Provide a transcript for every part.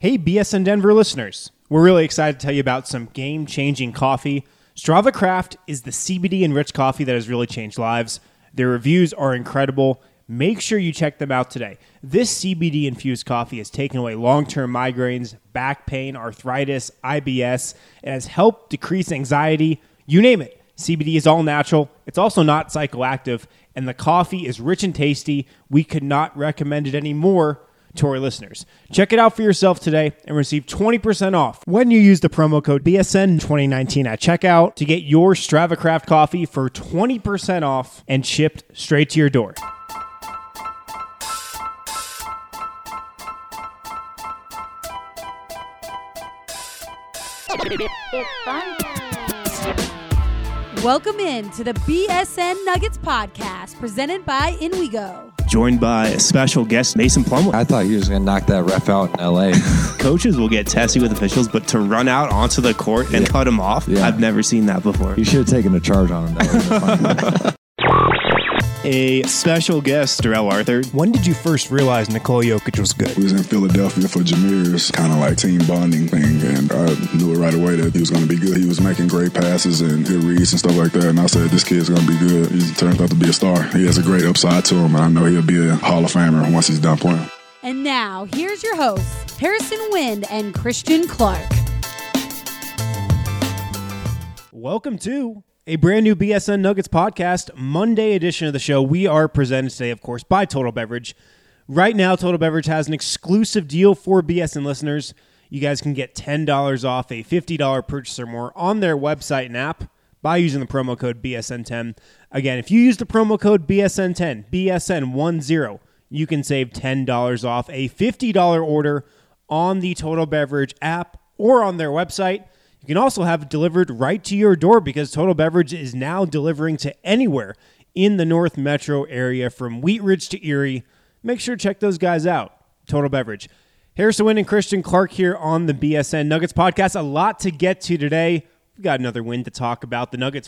Hey, BSN Denver listeners. We're really excited to tell you about some game-changing coffee. Strava Craft is the CBD-enriched coffee that has really changed lives. Their reviews are incredible. Make sure you check them out today. This CBD-infused coffee has taken away long-term migraines, back pain, arthritis, IBS. It has helped decrease anxiety. You name it. CBD is all natural. It's also not psychoactive. And the coffee is rich and tasty. We could not recommend it anymore to our listeners. Check it out for yourself today and receive 20% off when you use the promo code BSN2019 at checkout to get your Strava Craft coffee for 20% off and shipped straight to your door. It's fun. Welcome in to the BSN Nuggets podcast presented by InWeGo. Joined by a special guest, Mason Plumlee. I thought he was going to knock that ref out in L.A. Coaches will get testy with officials, but to run out onto the court and cut him off, I've never seen that before. You should have taken a charge on him. That would have been funny. A special guest, Darrell Arthur. When did you first realize Nikola Jokic was good? We was in Philadelphia for Jameer's kind of like team bonding thing, and I knew it right away that he was going to be good. He was making great passes and good reads and stuff like that, and I said, this kid's going to be good. He turns out to be a star. He has a great upside to him, and I know he'll be a Hall of Famer once he's done playing. And now, here's your hosts, Harrison Wind and Christian Clark. Welcome to a brand new BSN Nuggets podcast, Monday edition of the show. We are presented today, of course, by Total Beverage. Right now, Total Beverage has an exclusive deal for BSN listeners. You guys can get $10 off a $50 purchase or more on their website and app by using the promo code BSN10. Again, if you use the promo code BSN10, BSN10, you can save $10 off a $50 order on the Total Beverage app or on their website. You can also have it delivered right to your door because Total Beverage is now delivering to anywhere in the North Metro area from Wheat Ridge to Erie. Make sure to check those guys out, Total Beverage. Harrison Wind and Christian Clark here on the BSN Nuggets podcast. A lot to get to today. We've got another win to talk about. The Nuggets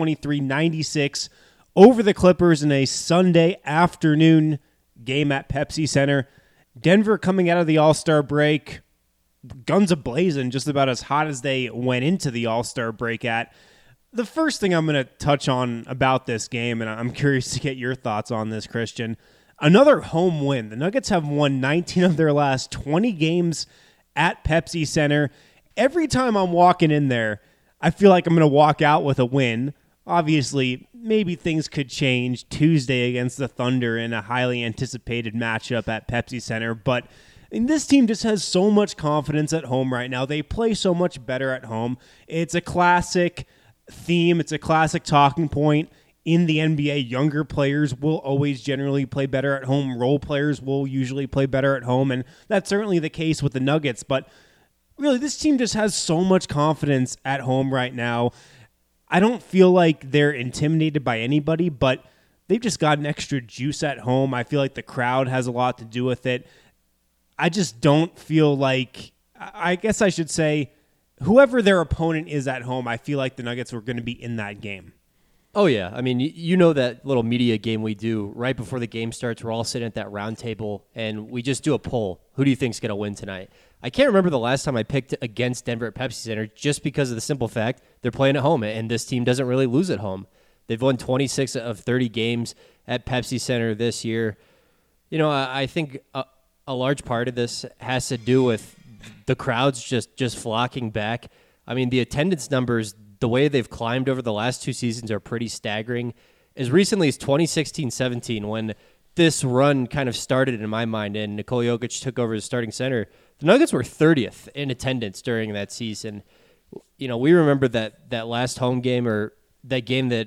123-96 over the Clippers in a Sunday afternoon game at Pepsi Center. Denver coming out of the All-Star break, guns a-blazing, just about as hot as they went into the All-Star break at. The first thing I'm going to touch on about this game, and I'm curious to get your thoughts on this, Christian, another home win. The Nuggets have won 19 of their last 20 games at Pepsi Center. Every time I'm walking in there, I feel like I'm going to walk out with a win. Obviously, maybe things could change Tuesday against the Thunder in a highly anticipated matchup at Pepsi Center, but and this team just has so much confidence at home right now. They play so much better at home. It's a classic theme. It's a classic talking point in the NBA. Younger players will always generally play better at home. Role players will usually play better at home, and that's certainly the case with the Nuggets. But really, this team just has so much confidence at home right now. I don't feel like they're intimidated by anybody, but they've just got an extra juice at home. I feel like the crowd has a lot to do with it. I just don't feel like, I guess I should say, whoever their opponent is at home, I feel like the Nuggets were going to be in that game. Oh, yeah. I mean, you know that little media game we do right before the game starts. We're all sitting at that round table, and we just do a poll. Who do you think's going to win tonight? I can't remember the last time I picked against Denver at Pepsi Center just because of the simple fact they're playing at home, and this team doesn't really lose at home. They've won 26 of 30 games at Pepsi Center this year. You know, I think a large part of this has to do with the crowds just flocking back. I mean, the attendance numbers, the way they've climbed over the last two seasons are pretty staggering. As recently as 2016-17, when this run kind of started in my mind and Nikola Jokic took over as starting center, the Nuggets were 30th in attendance during that season. You know, we remember that last home game, or that game that,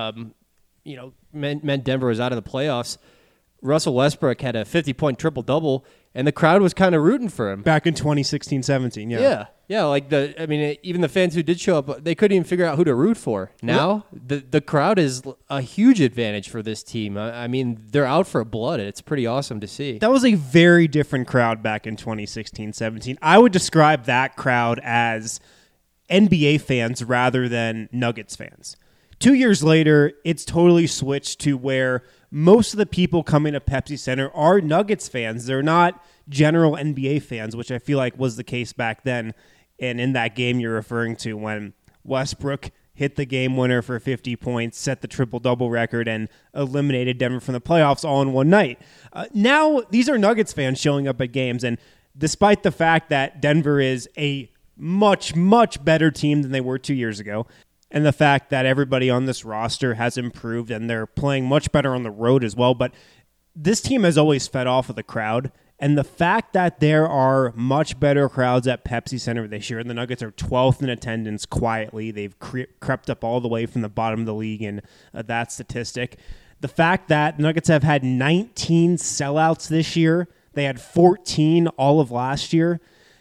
meant Denver was out of the playoffs. Russell Westbrook had a 50-point triple-double, and the crowd was kind of rooting for him. Back in 2016-17, yeah. Yeah, like even the fans who did show up, they couldn't even figure out who to root for. Now, the crowd is a huge advantage for this team. I mean, they're out for blood. It's pretty awesome to see. That was a very different crowd back in 2016-17. I would describe that crowd as NBA fans rather than Nuggets fans. 2 years later, it's totally switched to where most of the people coming to Pepsi Center are Nuggets fans. They're not general NBA fans, which I feel like was the case back then. And in that game you're referring to when Westbrook hit the game winner for 50 points, set the triple-double record, and eliminated Denver from the playoffs all in one night. Now, these are Nuggets fans showing up at games, and despite the fact that Denver is a much, much better team than they were 2 years ago, and the fact that everybody on this roster has improved and they're playing much better on the road as well, but this team has always fed off of the crowd. And the fact that there are much better crowds at Pepsi Center this year, and the Nuggets are 12th in attendance quietly. They've crept up all the way from the bottom of the league in that statistic. The fact that the Nuggets have had 19 sellouts this year. They had 14 all of last year.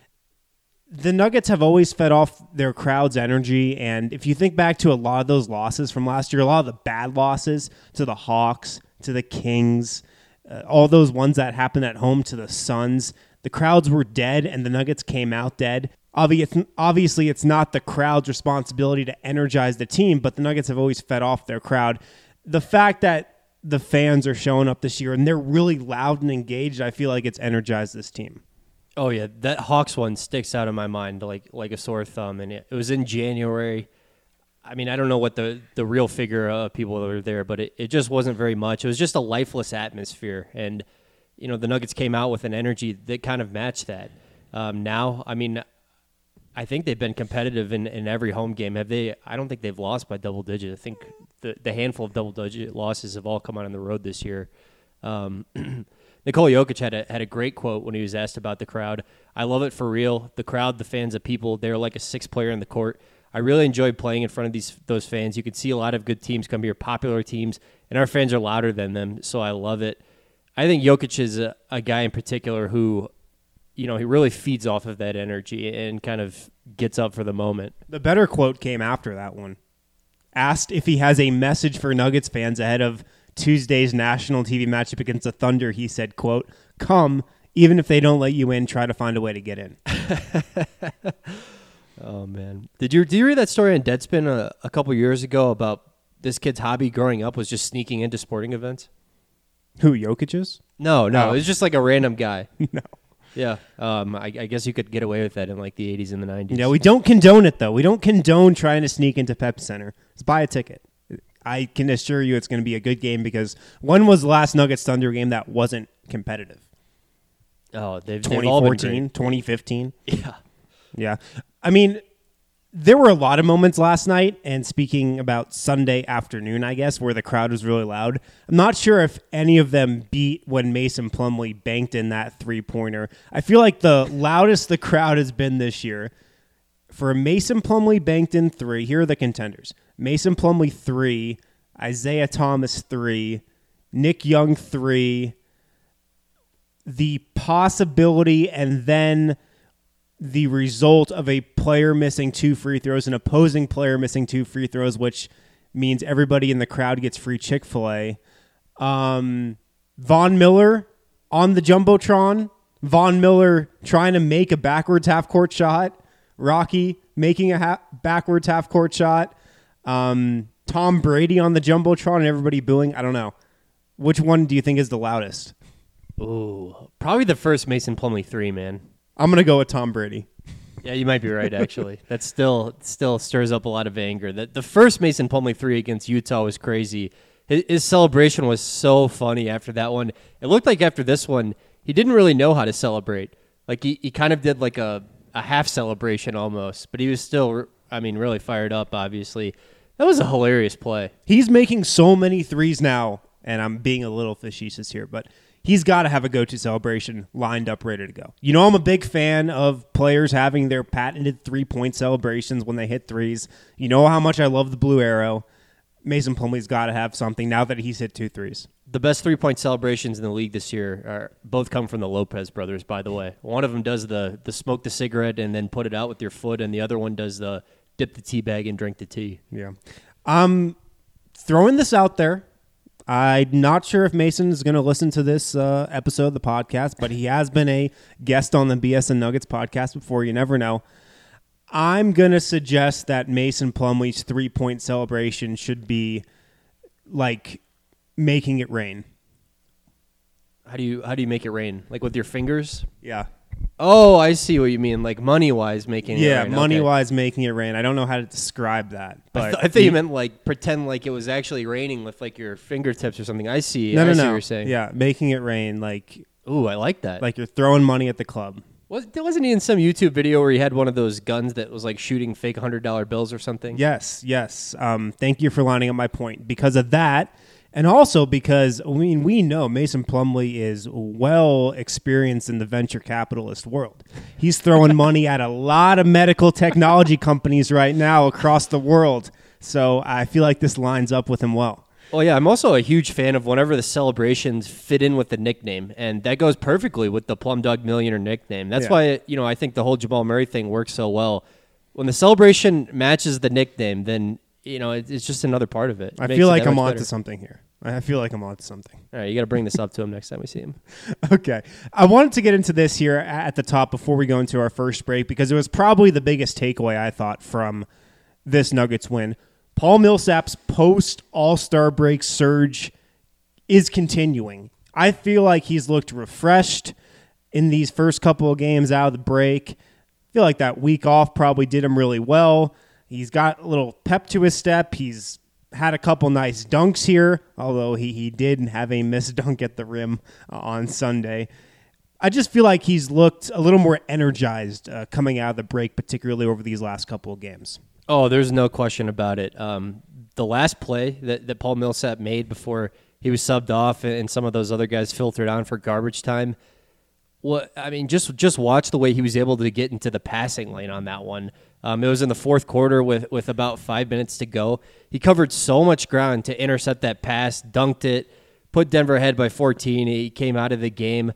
The Nuggets have always fed off their crowd's energy, and if you think back to a lot of those losses from last year, a lot of the bad losses to the Hawks, to the Kings, all those ones that happened at home to the Suns, the crowds were dead and the Nuggets came out dead. Obviously, it's not the crowd's responsibility to energize the team, but the Nuggets have always fed off their crowd. The fact that the fans are showing up this year and they're really loud and engaged, I feel like it's energized this team. Oh, yeah. That Hawks one sticks out in my mind like a sore thumb, and it was in January. I mean, I don't know what the real figure of people that were there, but it just wasn't very much. It was just a lifeless atmosphere, and the Nuggets came out with an energy that kind of matched that. Now, I mean, I think they've been competitive in every home game. Have they? I don't think they've lost by double digit. I think the handful of double digit losses have all come out on the road this year. Nikola Jokic had a great quote when he was asked about the crowd. I love it for real. The crowd, the fans, the people, they're like a sixth player in the court. I really enjoyed playing in front of those fans. You can see a lot of good teams come here, popular teams, and our fans are louder than them, so I love it. I think Jokic is a guy in particular who, he really feeds off of that energy and kind of gets up for the moment. The better quote came after that one. Asked if he has a message for Nuggets fans ahead of Tuesday's national TV matchup against the Thunder, he said, quote, "Come, even if they don't let you in, try to find a way to get in." Oh, man. Did you read that story on Deadspin a couple years ago about this kid's hobby growing up was just sneaking into sporting events? Who, Jokic is? No. It was just like a random guy. No. Yeah. I guess you could get away with that in like the 80s and the 90s. Yeah, we don't condone it, though. We don't condone trying to sneak into Pepsi Center. Just buy a ticket. I can assure you it's going to be a good game because when was the last Nuggets-Thunder game that wasn't competitive? Oh, they've 2014, 2015? Yeah. Yeah. I mean, there were a lot of moments last night, and speaking about Sunday afternoon, I guess, where the crowd was really loud. I'm not sure if any of them beat when Mason Plumlee banked in that three-pointer. I feel like the loudest the crowd has been this year. For Mason Plumlee banked in three, here are the contenders. Mason Plumlee 3, Isaiah Thomas 3, Nick Young 3, the possibility and then the result of a player missing 2 free throws, an opposing player missing 2 free throws, which means everybody in the crowd gets free Chick-fil-A. Von Miller on the Jumbotron. Von Miller trying to make a backwards half-court shot. Rocky making a backwards half-court shot. Tom Brady on the Jumbotron and everybody booing. I don't know. Which one do you think is the loudest? Ooh, probably the first Mason Plumlee 3, man. I'm going to go with Tom Brady. Yeah, you might be right, actually. That still stirs up a lot of anger. The first Mason Plumlee 3 against Utah was crazy. His celebration was so funny after that one. It looked like after this one, he didn't really know how to celebrate. Like, he kind of did like a half celebration almost, but he was still, really fired up, obviously. That was a hilarious play. He's making so many threes now, and I'm being a little facetious here, but he's got to have a go-to celebration lined up, ready to go. I'm a big fan of players having their patented three-point celebrations when they hit threes. You know how much I love the blue arrow. Mason Plumlee's got to have something now that he's hit 2 threes. The best three-point celebrations in the league this year both come from the Lopez brothers, by the way. One of them does the smoke the cigarette and then put it out with your foot, and the other one does the dip the tea bag and drink the tea. Yeah. Throwing this out there. I'm not sure if Mason is going to listen to this episode of the podcast, but he has been a guest on the BSN Nuggets podcast before. You never know. I'm going to suggest that Mason Plumlee's three-point celebration should be like making it rain. How do you make it rain? Like with your fingers? Yeah. Oh, I see what you mean. Like money-wise making it rain. Money-wise making it rain. I don't know how to describe that. But I thought you meant like pretend like it was actually raining with like your fingertips or something. I see. No. What you're saying. Yeah, making it rain like Ooh, I like that. you're throwing money at the club. Wasn't he in some YouTube video where he had one of those guns that was like shooting fake $100 bills or something? Yes. Thank you for lining up my point. Because of that, and also because we know Mason Plumlee is well experienced in the venture capitalist world. He's throwing money at a lot of medical technology companies right now across the world. So I feel like this lines up with him well. Oh, yeah. I'm also a huge fan of whenever the celebrations fit in with the nickname, and that goes perfectly with the Plum Dog Millionaire nickname. That's why, I think the whole Jamal Murray thing works so well. When the celebration matches the nickname, then, it's just another part of it. I feel like I'm onto something here. I feel like I'm onto something. All right, you got to bring this up to him next time we see him. Okay. I wanted to get into this here at the top before we go into our first break because it was probably the biggest takeaway, I thought, from this Nuggets win. Paul Millsap's post-All-Star break surge is continuing. I feel like he's looked refreshed in these first couple of games out of the break. I feel like that week off probably did him really well. He's got a little pep to his step. He's had a couple nice dunks here, although he did have a missed dunk at the rim on Sunday. I just feel like he's looked a little more energized coming out of the break, particularly over these last couple of games. Oh, there's no question about it. The last play that Paul Millsap made before he was subbed off and some of those other guys filtered on for garbage time, just watch the way he was able to get into the passing lane on that one. It was in the fourth quarter with about 5 minutes to go. He covered so much ground to intercept that pass, dunked it, put Denver ahead by 14. He came out of the game.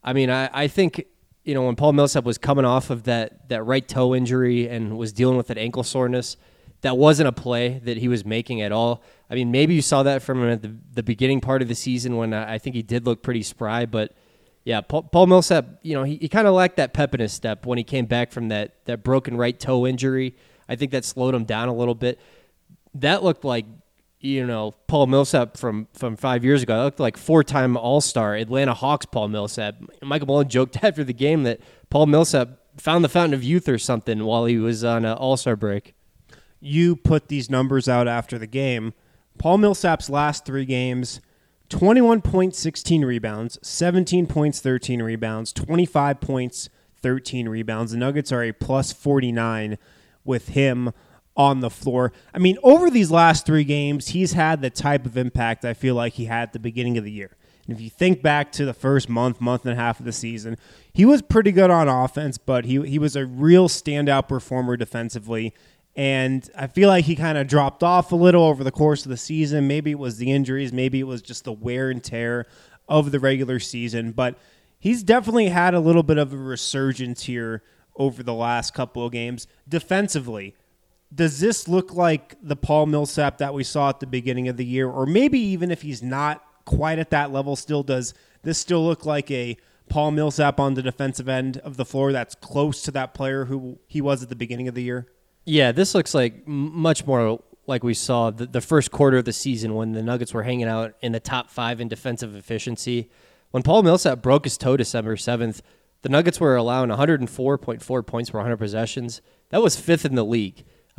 I think when Paul Millsap was coming off of that right toe injury and was dealing with that ankle soreness, that wasn't a play that he was making at all. Maybe you saw that from him at the beginning part of the season when I think he did look pretty spry, but yeah, Paul Millsap, he kind of lacked that pep in his step when he came back from that broken right toe injury. I think that slowed him down a little bit. That looked like, Paul Millsap from 5 years ago. That looked like four-time All-Star Atlanta Hawks Paul Millsap. Michael Malone joked after the game that Paul Millsap found the fountain of youth or something while he was on an All-Star break. You put these numbers out after the game. Paul Millsap's last 3 games, 21 points, 16 rebounds, 17 points, 13 rebounds, 25 points, 13 rebounds. The Nuggets are a plus 49 with him on the floor. Over these last 3 games, he's had the type of impact I feel like he had at the beginning of the year. And if you think back to the first month and a half of the season, he was pretty good on offense, but he was a real standout performer defensively. And I feel like he kind of dropped off a little over the course of the season. Maybe it was the injuries. Maybe it was just the wear and tear of the regular season. But he's definitely had a little bit of a resurgence here over the last couple of games. Defensively, does this look like the Paul Millsap that we saw at the beginning of the year? Or maybe even if he's not quite at that level still, does this still look like a Paul Millsap on the defensive end of the floor that's close to that player who he was at the beginning of the year? Yeah, this looks like much more like we saw the first quarter of the season when the Nuggets were hanging out in the top 5 in defensive efficiency. When Paul Millsap broke his toe December 7th, the Nuggets were allowing 104.4 points per 100 possessions. That was 5th in the league.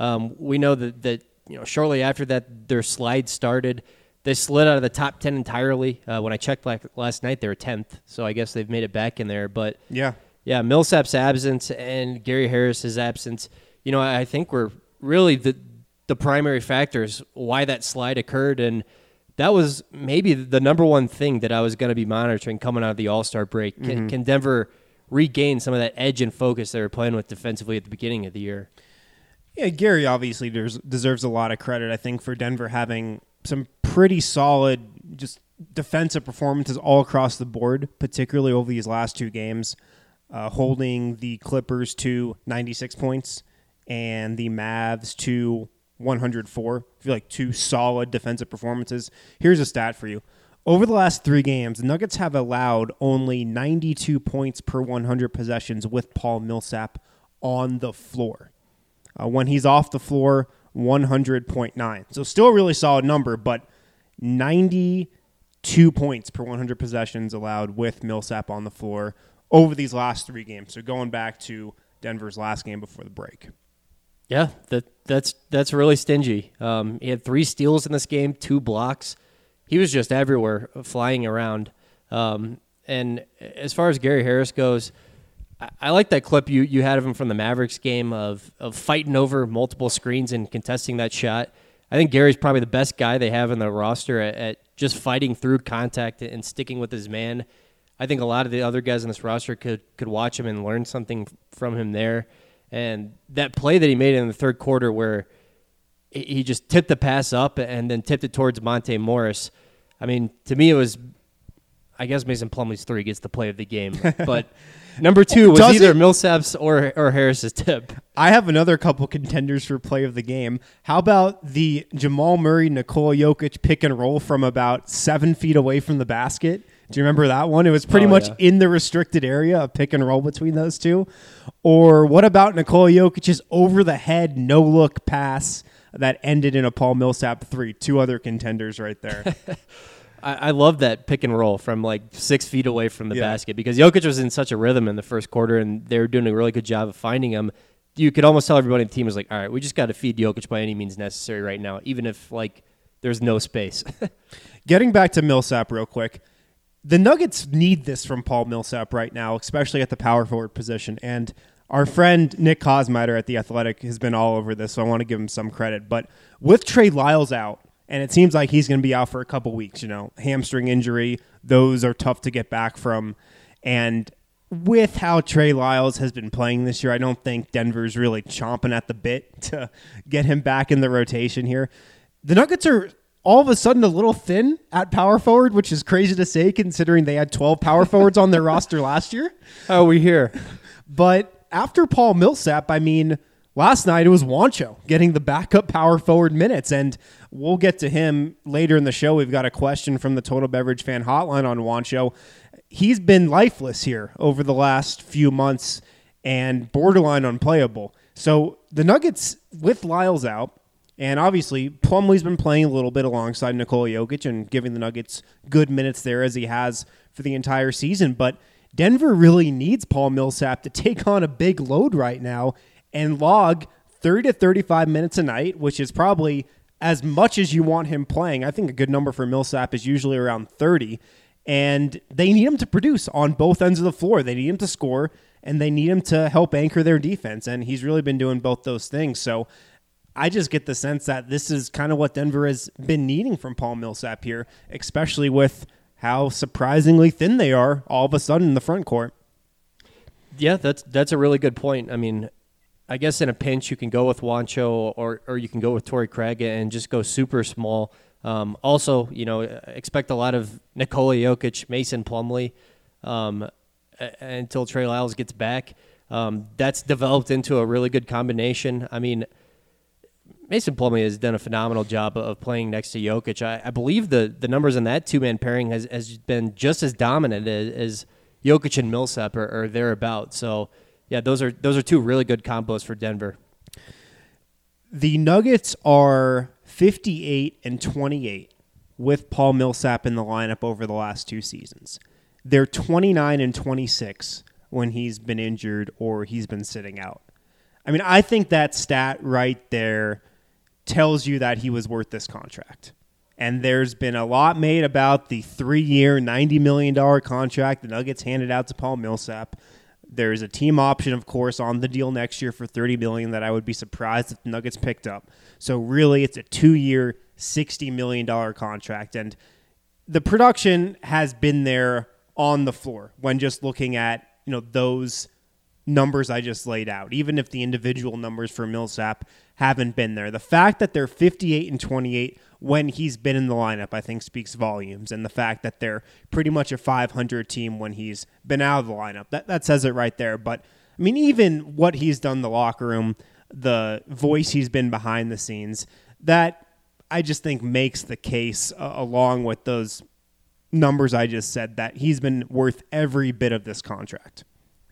We know that shortly after that, their slide started. They slid out of the top 10 entirely. When I checked last night, they were 10th, so I guess they've made it back in there. But yeah, Millsap's absence and Gary Harris's absence, I think were really the primary factors why that slide occurred, and that was maybe the number one thing that I was going to be monitoring coming out of the All-Star break. Can Denver regain some of that edge and focus they were playing with defensively at the beginning of the year? Yeah, Gary obviously deserves a lot of credit, I think, for Denver having some pretty solid just defensive performances all across the board, particularly over these last 2 games, holding the Clippers to 96 points and the Mavs to 104. I feel like 2 solid defensive performances. Here's a stat for you. Over the last 3 games, the Nuggets have allowed only 92 points per 100 possessions with Paul Millsap on the floor. When he's off the floor, 100.9. So still a really solid number, but 92 2 points per 100 possessions allowed with Millsap on the floor over these last 3 games. So going back to Denver's last game before the break. Yeah, that's really stingy. He had 3 steals in this game, 2 blocks. He was just everywhere, flying around. And as far as Gary Harris goes, I like that clip you had of him from the Mavericks game of fighting over multiple screens and contesting that shot. I think Gary's probably the best guy they have in the roster at just fighting through contact and sticking with his man. I think a lot of the other guys in this roster could watch him and learn something from him there. And that play that he made in the third quarter where he just tipped the pass up and then tipped it towards Monte Morris. I mean, to me it was, I guess Mason Plumlee's 3 gets the play of the game. But number 2 was either Millsap's or Harris's tip. I have another couple contenders for play of the game. How about the Jamal Murray, Nikola Jokic pick and roll from about 7 feet away from the basket? Do you remember that one? It was pretty much in the restricted area, a pick and roll between those two. Or what about Nikola Jokic's over-the-head, no-look pass that ended in a Paul Millsap 3? 2 other contenders right there. I love that pick and roll from like 6 feet away from the basket because Jokic was in such a rhythm in the first quarter and they were doing a really good job of finding him. You could almost tell everybody on the team was like, all right, we just got to feed Jokic by any means necessary right now, even if like there's no space. Getting back to Millsap real quick, the Nuggets need this from Paul Millsap right now, especially at the power forward position. And our friend Nick Kosmider at The Athletic has been all over this, so I want to give him some credit. But with Trey Lyles out, and it seems like he's going to be out for a couple weeks, hamstring injury, those are tough to get back from. And with how Trey Lyles has been playing this year, I don't think Denver's really chomping at the bit to get him back in the rotation here. The Nuggets are all of a sudden a little thin at power forward, which is crazy to say considering they had 12 power forwards on their roster last year. How are we here? But after Paul Millsap, I mean, last night it was Juancho getting the backup power forward minutes, and we'll get to him later in the show. We've got a question from the Total Beverage Fan Hotline on Juancho. He's been lifeless here over the last few months and borderline unplayable. So the Nuggets, with Lyles out, and obviously Plumlee's been playing a little bit alongside Nikola Jokic and giving the Nuggets good minutes there as he has for the entire season, but Denver really needs Paul Millsap to take on a big load right now and log 30 to 35 minutes a night, which is probably as much as you want him playing. I think a good number for Millsap is usually around 30, and they need him to produce on both ends of the floor. They need him to score, and they need him to help anchor their defense, and he's really been doing both those things. So I just get the sense that this is kind of what Denver has been needing from Paul Millsap here, especially with how surprisingly thin they are all of a sudden in the front court. Yeah, that's a really good point. I mean, I guess in a pinch you can go with Juancho or you can go with Torrey Craig and just go super small. Also, expect a lot of Nikola Jokic, Mason Plumlee until Trey Lyles gets back. That's developed into a really good combination. I mean, Mason Plumlee has done a phenomenal job of playing next to Jokic. I believe the numbers in that two-man pairing has been just as dominant as Jokic and Millsap or thereabouts. So, yeah, those are 2 really good combos for Denver. The Nuggets are 58-28 with Paul Millsap in the lineup over the last 2 seasons. They're 29-26 when he's been injured or he's been sitting out. I mean, I think that stat right there tells you that he was worth this contract. And there's been a lot made about the 3-year, $90 million contract the Nuggets handed out to Paul Millsap. There's a team option, of course, on the deal next year for $30 million that I would be surprised if the Nuggets picked up. So really, it's a 2-year, $60 million contract. And the production has been there on the floor when just looking at, those numbers I just laid out, even if the individual numbers for Millsap haven't been there. The fact that they're 58-28 when he's been in the lineup, I think speaks volumes. And the fact that they're pretty much a 500 team when he's been out of the lineup, that says it right there. But, I mean, even what he's done in the locker room, the voice he's been behind the scenes, that I just think makes the case along with those numbers I just said that he's been worth every bit of this contract.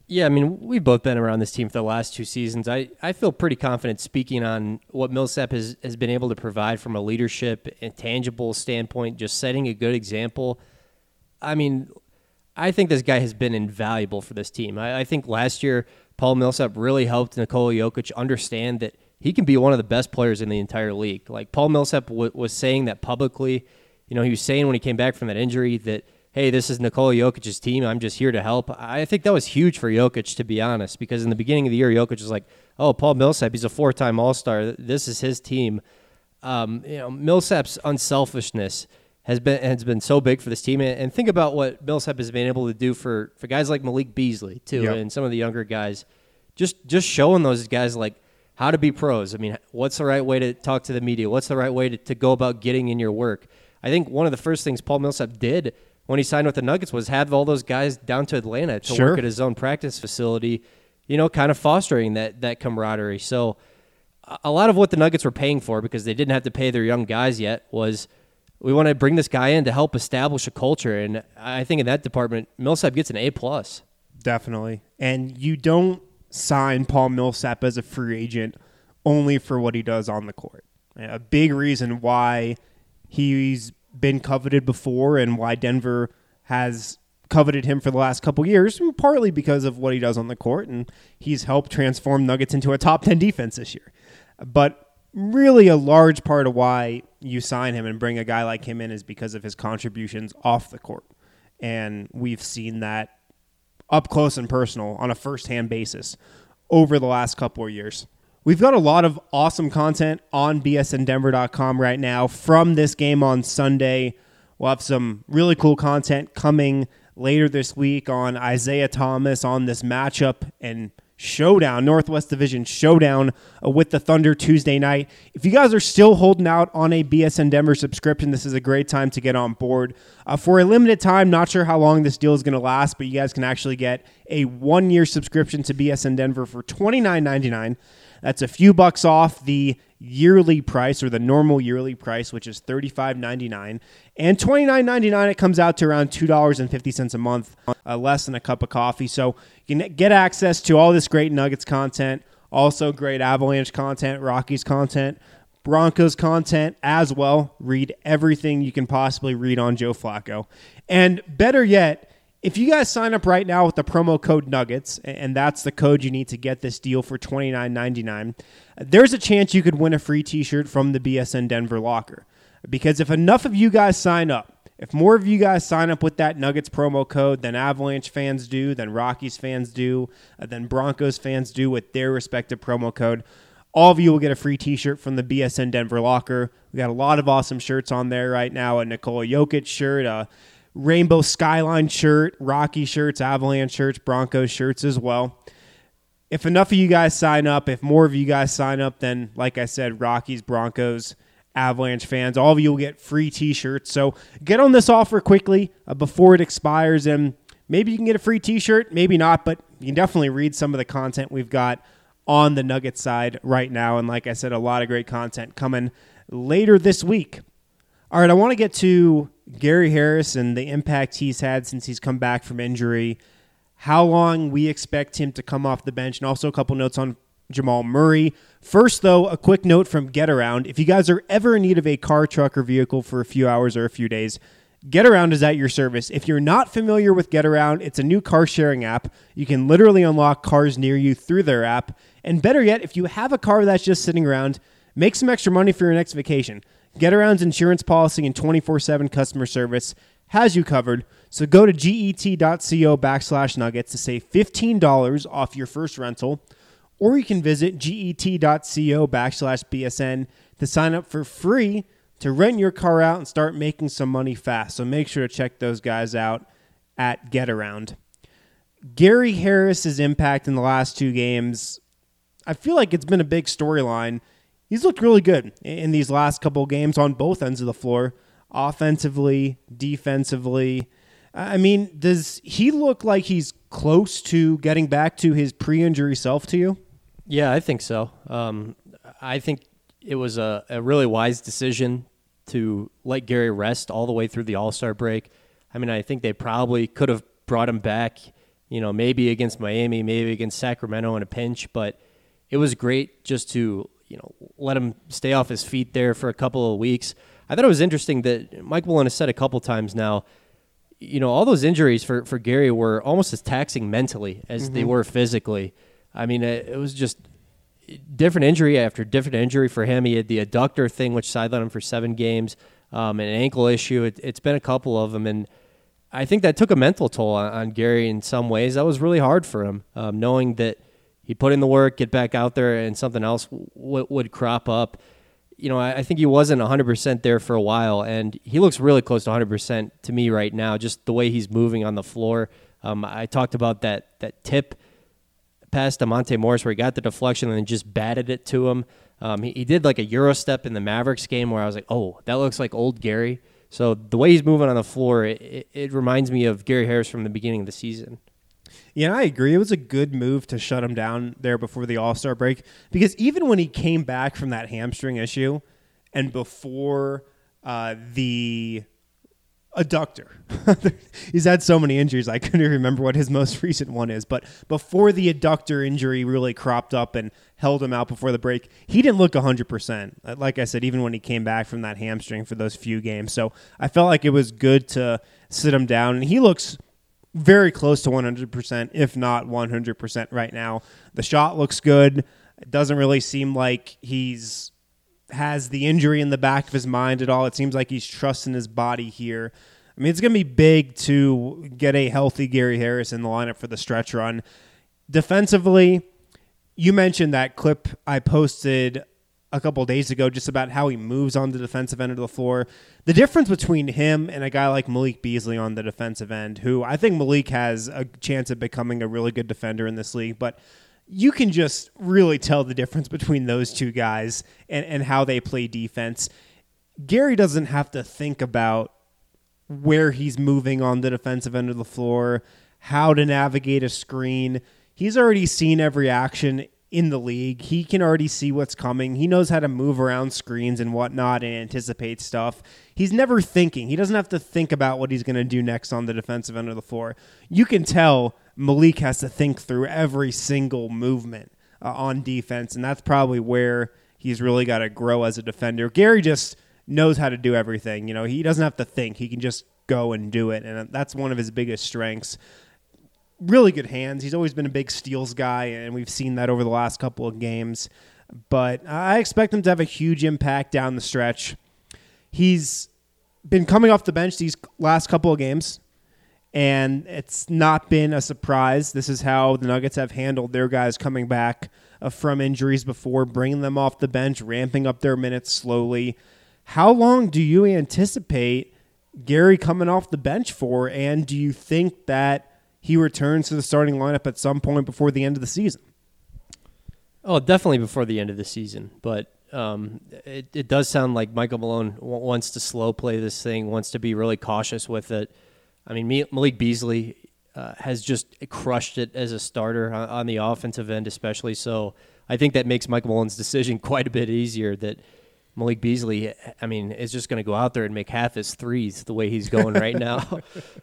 Yeah, I mean, we've both been around this team for the last 2 seasons. I feel pretty confident speaking on what Millsap has been able to provide from a leadership and tangible standpoint, just setting a good example. I mean, I think this guy has been invaluable for this team. I think last year, Paul Millsap really helped Nikola Jokic understand that he can be one of the best players in the entire league. Like, Paul Millsap was saying that publicly. You know, he was saying when he came back from that injury that, hey, this is Nikola Jokic's team. I'm just here to help. I think that was huge for Jokic, to be honest, because in the beginning of the year, Jokic was like, oh, Paul Millsap, he's a 4-time All-Star. This is his team. Millsap's unselfishness has been so big for this team. And think about what Millsap has been able to do for guys like Malik Beasley, too, Yep. and some of the younger guys. Just showing those guys, like, how to be pros. I mean, what's the right way to talk to the media? What's the right way to go about getting in your work? I think one of the first things Paul Millsap did when he signed with the Nuggets was have all those guys down to Atlanta to Sure. work at his own practice facility, kind of fostering that camaraderie. So a lot of what the Nuggets were paying for, because they didn't have to pay their young guys yet, was we want to bring this guy in to help establish a culture. And I think in that department, Millsap gets an A+. Definitely. And you don't sign Paul Millsap as a free agent only for what he does on the court. A big reason why he's been coveted before and why Denver has coveted him for the last couple years, partly because of what he does on the court, and he's helped transform Nuggets into a top 10 defense this year. But really a large part of why you sign him and bring a guy like him in is because of his contributions off the court. And we've seen that up close and personal on a first-hand basis over the last couple of years. We've got a lot of awesome content on bsndenver.com right now from this game on Sunday. We'll have some really cool content coming later this week on Isaiah Thomas, on this matchup and showdown, Northwest Division showdown with the Thunder Tuesday night. If you guys are still holding out on a BSN Denver subscription, this is a great time to get on board. For a limited time, not sure how long this deal is going to last, but you guys can actually get a 1-year subscription to BSN Denver for $29.99. That's a few bucks off the yearly price, or the normal yearly price, which is $35.99. And $29.99, it comes out to around $2.50 a month, less than a cup of coffee. So you can get access to all this great Nuggets content, also great Avalanche content, Rockies content, Broncos content as well. Read everything you can possibly read on Joe Flacco. And better yet, if you guys sign up right now with the promo code Nuggets, and that's the code you need to get this deal for $29.99, there's a chance you could win a free t-shirt from the BSN Denver locker. Because if enough of you guys sign up, if more of you guys sign up with that Nuggets promo code than Avalanche fans do, than Rockies fans do, than Broncos fans do with their respective promo code, all of you will get a free t-shirt from the BSN Denver locker. We got a lot of awesome shirts on there right now. A Nikola Jokic shirt, a Rainbow Skyline shirt, Rocky shirts, Avalanche shirts, Broncos shirts as well. If enough of you guys sign up, if more of you guys sign up, then, like I said, Rockies, Broncos, Avalanche fans, all of you will get free t-shirts. So get on this offer quickly before it expires, and maybe you can get a free t-shirt, maybe not, but you can definitely read some of the content we've got on the Nuggets side right now. And like I said, a lot of great content coming later this week. All right, I want to get to Gary Harris and the impact he's had since he's come back from injury, how long we expect him to come off the bench, and also a couple notes on Jamal Murray. First, though, a quick note from GetAround. If you guys are ever in need of a car, truck, or vehicle for a few hours or a few days, GetAround is at your service. If you're not familiar with GetAround, it's a new car-sharing app. You can literally unlock cars near you through their app. And better yet, if you have a car that's just sitting around, make some extra money for your next vacation. GetAround's insurance policy and 24/7 customer service has you covered. So go to get.co/nuggets to save $15 off your first rental, or you can visit get.co/BSN to sign up for free to rent your car out and start making some money fast. So make sure to check those guys out at GetAround. Gary Harris's impact in the last 2 games, I feel like it's been a big storyline. He's looked really good in these last couple of games on both ends of the floor, offensively, defensively. I mean, does he look like he's close to getting back to his pre-injury self to you? Yeah, I think so. I think it was a really wise decision to let Gary rest all the way through the All-Star break. I mean, I think they probably could have brought him back maybe against Miami, maybe against Sacramento in a pinch, but it was great just to, let him stay off his feet there for a couple of weeks. I thought it was interesting that Mike Malone has said a couple times now, all those injuries for Gary were almost as taxing mentally as they were physically. I mean, it was just different injury after different injury for him. He had the adductor thing, which sidelined him for 7 games, an ankle issue. It's been a couple of them, and I think that took a mental toll on Gary in some ways. That was really hard for him, knowing that he'd put in the work, get back out there, and something else would crop up. I think he wasn't 100% there for a while, and he looks really close to 100% to me right now, just the way he's moving on the floor. I talked about that tip pass to Monte Morris where he got the deflection and then just batted it to him. He did like a Euro step in the Mavericks game where I was like, oh, that looks like old Gary. So the way he's moving on the floor, it reminds me of Gary Harris from the beginning of the season. Yeah, I agree. It was a good move to shut him down there before the All-Star break, because even when he came back from that hamstring issue and before the adductor, he's had so many injuries I couldn't remember what his most recent one is, but before the adductor injury really cropped up and held him out before the break, he didn't look 100%. Like I said, even when he came back from that hamstring for those few games. So I felt like it was good to sit him down, and he looks very close to 100%, if not 100% right now. The shot looks good. It doesn't really seem like has the injury in the back of his mind at all. It seems like he's trusting his body here. I mean, it's going to be big to get a healthy Gary Harris in the lineup for the stretch run. Defensively, you mentioned that clip I posted a couple of days ago just about how he moves on the defensive end of the floor. The difference between him and a guy like Malik Beasley on the defensive end, who I think Malik has a chance of becoming a really good defender in this league, but you can just really tell the difference between those two guys and how they play defense. Gary doesn't have to think about where he's moving on the defensive end of the floor, how to navigate a screen. He's already seen every action in the league. He can already see what's coming. He knows how to move around screens and whatnot and anticipate stuff. He's never thinking. He doesn't have to think about what he's going to do next on the defensive end of the floor. You can tell Malik has to think through every single movement on defense, and that's probably where he's really got to grow as a defender. Gary just knows how to do everything. He doesn't have to think. He can just go and do it, and that's one of his biggest strengths. Really good hands. He's always been a big steals guy, and we've seen that over the last couple of games. But I expect him to have a huge impact down the stretch. He's been coming off the bench these last couple of games, and it's not been a surprise. This is how the Nuggets have handled their guys coming back from injuries before, bringing them off the bench, ramping up their minutes slowly. How long do you anticipate Gary coming off the bench for, and do you think that he returns to the starting lineup at some point before the end of the season? Oh, definitely before the end of the season. But it does sound like Michael Malone wants to slow play this thing, wants to be really cautious with it. I mean, Malik Beasley has just crushed it as a starter on the offensive end especially. So I think that makes Michael Malone's decision quite a bit easier, that Malik Beasley, is just going to go out there and make half his threes the way he's going right now.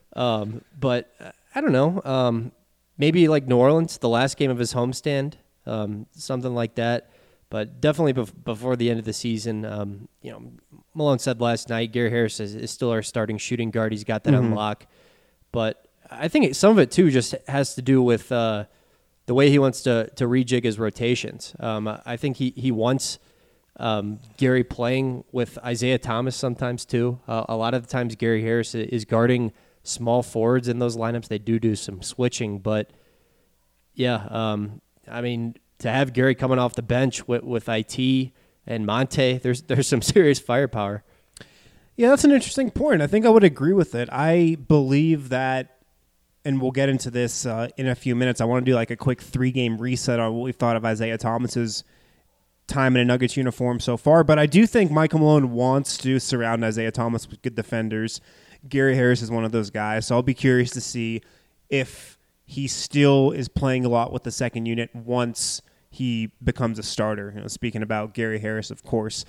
But I don't know. Maybe like New Orleans, the last game of his homestand, something like that. But definitely before the end of the season, Malone said last night, Gary Harris is still our starting shooting guard. He's got that on lock. But I think some of it, too, just has to do with the way he wants to rejig his rotations. I think he wants Gary playing with Isaiah Thomas sometimes, too. A lot of the times Gary Harris is guarding small forwards in those lineups. They do some switching, but yeah, to have Gary coming off the bench with IT and Monte, there's some serious firepower. Yeah, that's an interesting point. I think I would agree with it. I believe that, and we'll get into this in a few minutes, I want to do like a quick 3-game reset on what we've thought of Isaiah Thomas's time in a Nuggets uniform so far, but I do think Michael Malone wants to surround Isaiah Thomas with good defenders. Gary Harris is one of those guys, so I'll be curious to see if he still is playing a lot with the second unit once he becomes a starter. Speaking about Gary Harris, of course.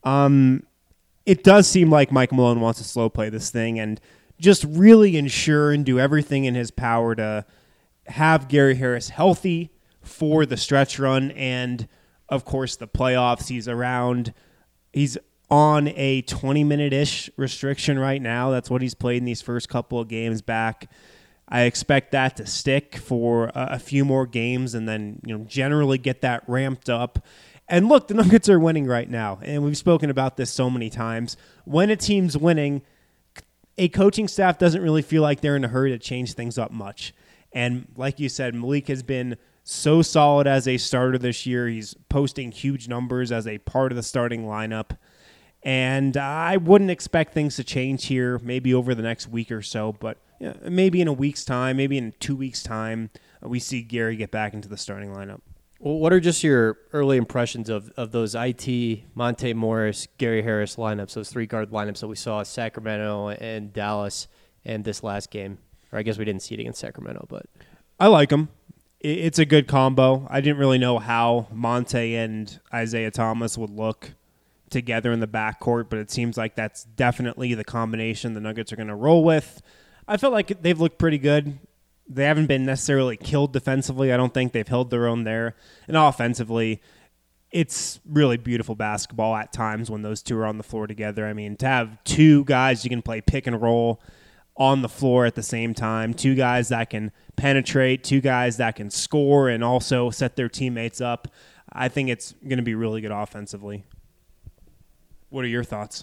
It does seem like Mike Malone wants to slow play this thing and just really ensure and do everything in his power to have Gary Harris healthy for the stretch run and, of course, the playoffs. He's on a 20-minute-ish restriction right now. That's what he's played in these first couple of games back. I expect that to stick for a few more games and then generally get that ramped up. And look, the Nuggets are winning right now, and we've spoken about this so many times. When a team's winning, a coaching staff doesn't really feel like they're in a hurry to change things up much. And like you said, Malik has been so solid as a starter this year. He's posting huge numbers as a part of the starting lineup. And I wouldn't expect things to change here maybe over the next week or so, but maybe in a week's time, maybe in 2 weeks' time, we see Gary get back into the starting lineup. Well, what are just your early impressions of those IT, Monte Morris, Gary Harris lineups, those 3-guard lineups that we saw at Sacramento and Dallas and this last game? Or I guess we didn't see it against Sacramento, but I like them. It's a good combo. I didn't really know how Monte and Isaiah Thomas would look together in the backcourt, but it seems like that's definitely the combination the Nuggets are going to roll with. I felt like they've looked pretty good. They haven't been necessarily killed defensively. I don't think they've held their own there. And offensively, it's really beautiful basketball at times when those two are on the floor together. I mean, to have two guys you can play pick and roll on the floor at the same time, two guys that can penetrate, two guys that can score and also set their teammates up, I think it's going to be really good offensively. What are your thoughts?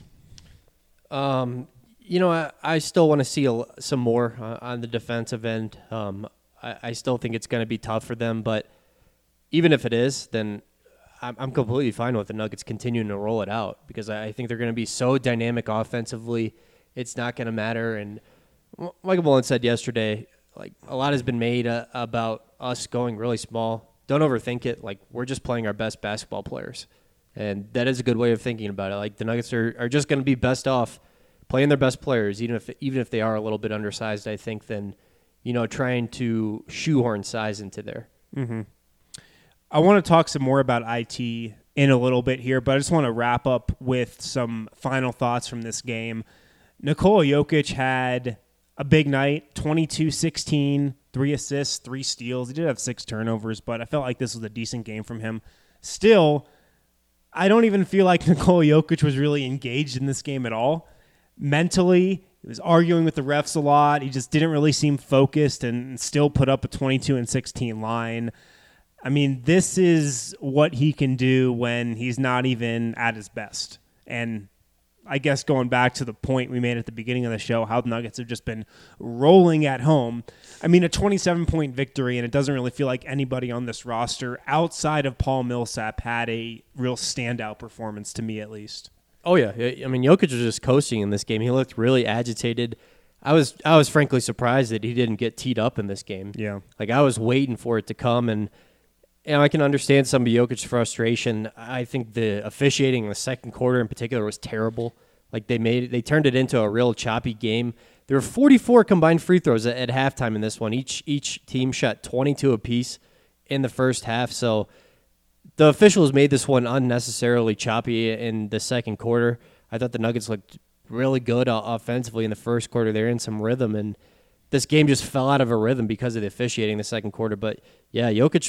I still want to see some more on the defensive end. I still think it's going to be tough for them, but even if it is, then I'm completely fine with the Nuggets continuing to roll it out because I think they're going to be so dynamic offensively. It's not going to matter. And Michael Mullen said yesterday, like a lot has been made about us going really small. Don't overthink it. Like we're just playing our best basketball players. And that is a good way of thinking about it. Like the Nuggets are just going to be best off playing their best players, even if they are a little bit undersized, I think, than trying to shoehorn size into there. Mm-hmm. I want to talk some more about IT in a little bit here, but I just want to wrap up with some final thoughts from this game. Nikola Jokic had a big night, 22-16, 3 assists, 3 steals. He did have 6 turnovers, but I felt like this was a decent game from him. Still, I don't even feel like Nikola Jokic was really engaged in this game at all. Mentally, he was arguing with the refs a lot. He just didn't really seem focused and still put up a 22-16 line. I mean, this is what he can do when he's not even at his best. And I guess going back to the point we made at the beginning of the show, how the Nuggets have just been rolling at home. I mean, a 27-point victory, and it doesn't really feel like anybody on this roster outside of Paul Millsap had a real standout performance, to me at least. Oh, yeah. I mean, Jokic was just coasting in this game. He looked really agitated. I was frankly surprised that he didn't get teed up in this game. Yeah. Like, I was waiting for it to come, and I can understand some of Jokic's frustration. I think the officiating in the second quarter in particular was terrible. Like, they turned it into a real choppy game. There were 44 combined free throws at halftime in this one. Each team shot 22 apiece in the first half, so the officials made this one unnecessarily choppy in the second quarter. I thought the Nuggets looked really good offensively in the first quarter. They're in some rhythm, and this game just fell out of a rhythm because of the officiating in the second quarter. But, yeah, Jokic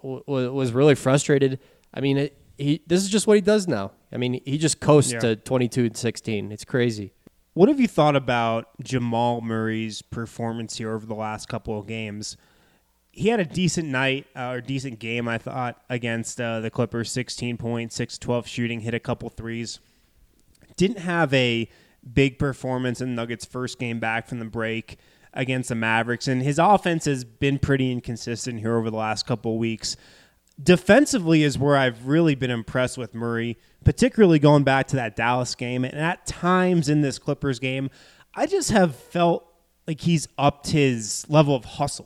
was really frustrated. I mean, this is just what he does now. I mean, he just coasts to 22-16. It's crazy. What have you thought about Jamal Murray's performance here over the last couple of games? He had a decent night, or decent game, I thought, against the Clippers. 16 points, 6-12 shooting, hit a couple threes. Didn't have a big performance in the Nuggets' first game back from the break against the Mavericks, and his offense has been pretty inconsistent here over the last couple of weeks. Defensively is where I've really been impressed with Murray, particularly going back to that Dallas game. And at times in this Clippers game, I just have felt like he's upped his level of hustle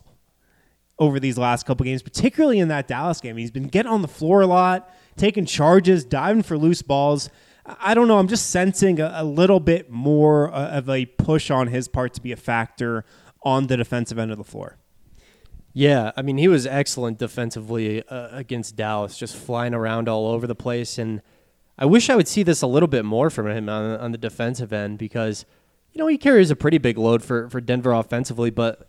over these last couple games, particularly in that Dallas game. He's been getting on the floor a lot, taking charges, diving for loose balls. I don't know. I'm just sensing a little bit more of a push on his part to be a factor on the defensive end of the floor. Yeah, I mean, he was excellent defensively against Dallas, just flying around all over the place. And I wish I would see this a little bit more from him on the defensive end because, he carries a pretty big load for Denver offensively, but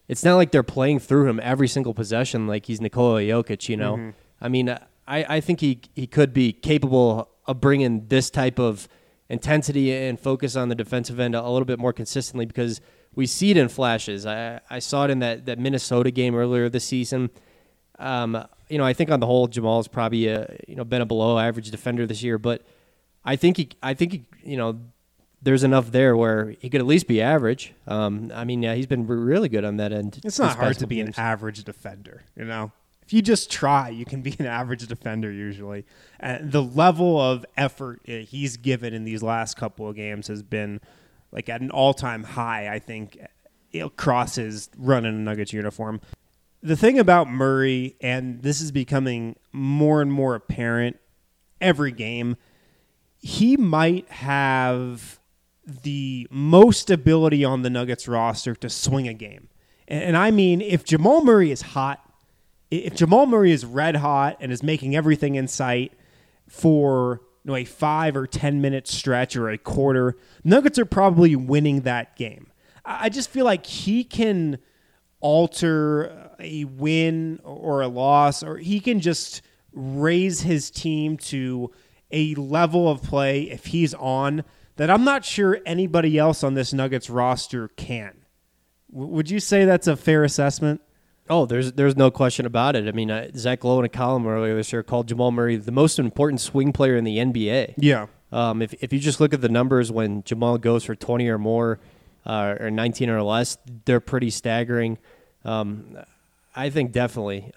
it's not like they're playing through him every single possession like he's Nikola Jokic, you know. Mm-hmm. I mean, I think he could be capable of bringing this type of intensity and focus on the defensive end a little bit more consistently, because we see it in flashes. I saw it in that Minnesota game earlier this season. I think on the whole, Jamal's probably been a below average defender this year, but I think he there's enough there where he could at least be average. He's been really good on that end. It's not hard to be an average defender, you know. If you just try, you can be an average defender usually. And the level of effort he's given in these last couple of games has been like at an all-time high, I think, across his run in a Nuggets uniform. The thing about Murray, and this is becoming more and more apparent every game, he might have the most ability on the Nuggets roster to swing a game. And I mean, if Jamal Murray is hot, if Jamal Murray is red hot and is making everything in sight for a 5 or 10 minute stretch or a quarter, Nuggets are probably winning that game. I just feel like he can alter a win or a loss, or he can just raise his team to a level of play if he's on that I'm not sure anybody else on this Nuggets roster can. Would you say that's a fair assessment? Oh, there's no question about it. I mean, Zach Lowe in a column earlier this year called Jamal Murray the most important swing player in the NBA. Yeah. If you just look at the numbers when Jamal goes for 20 or more or 19 or less, they're pretty staggering. I think definitely.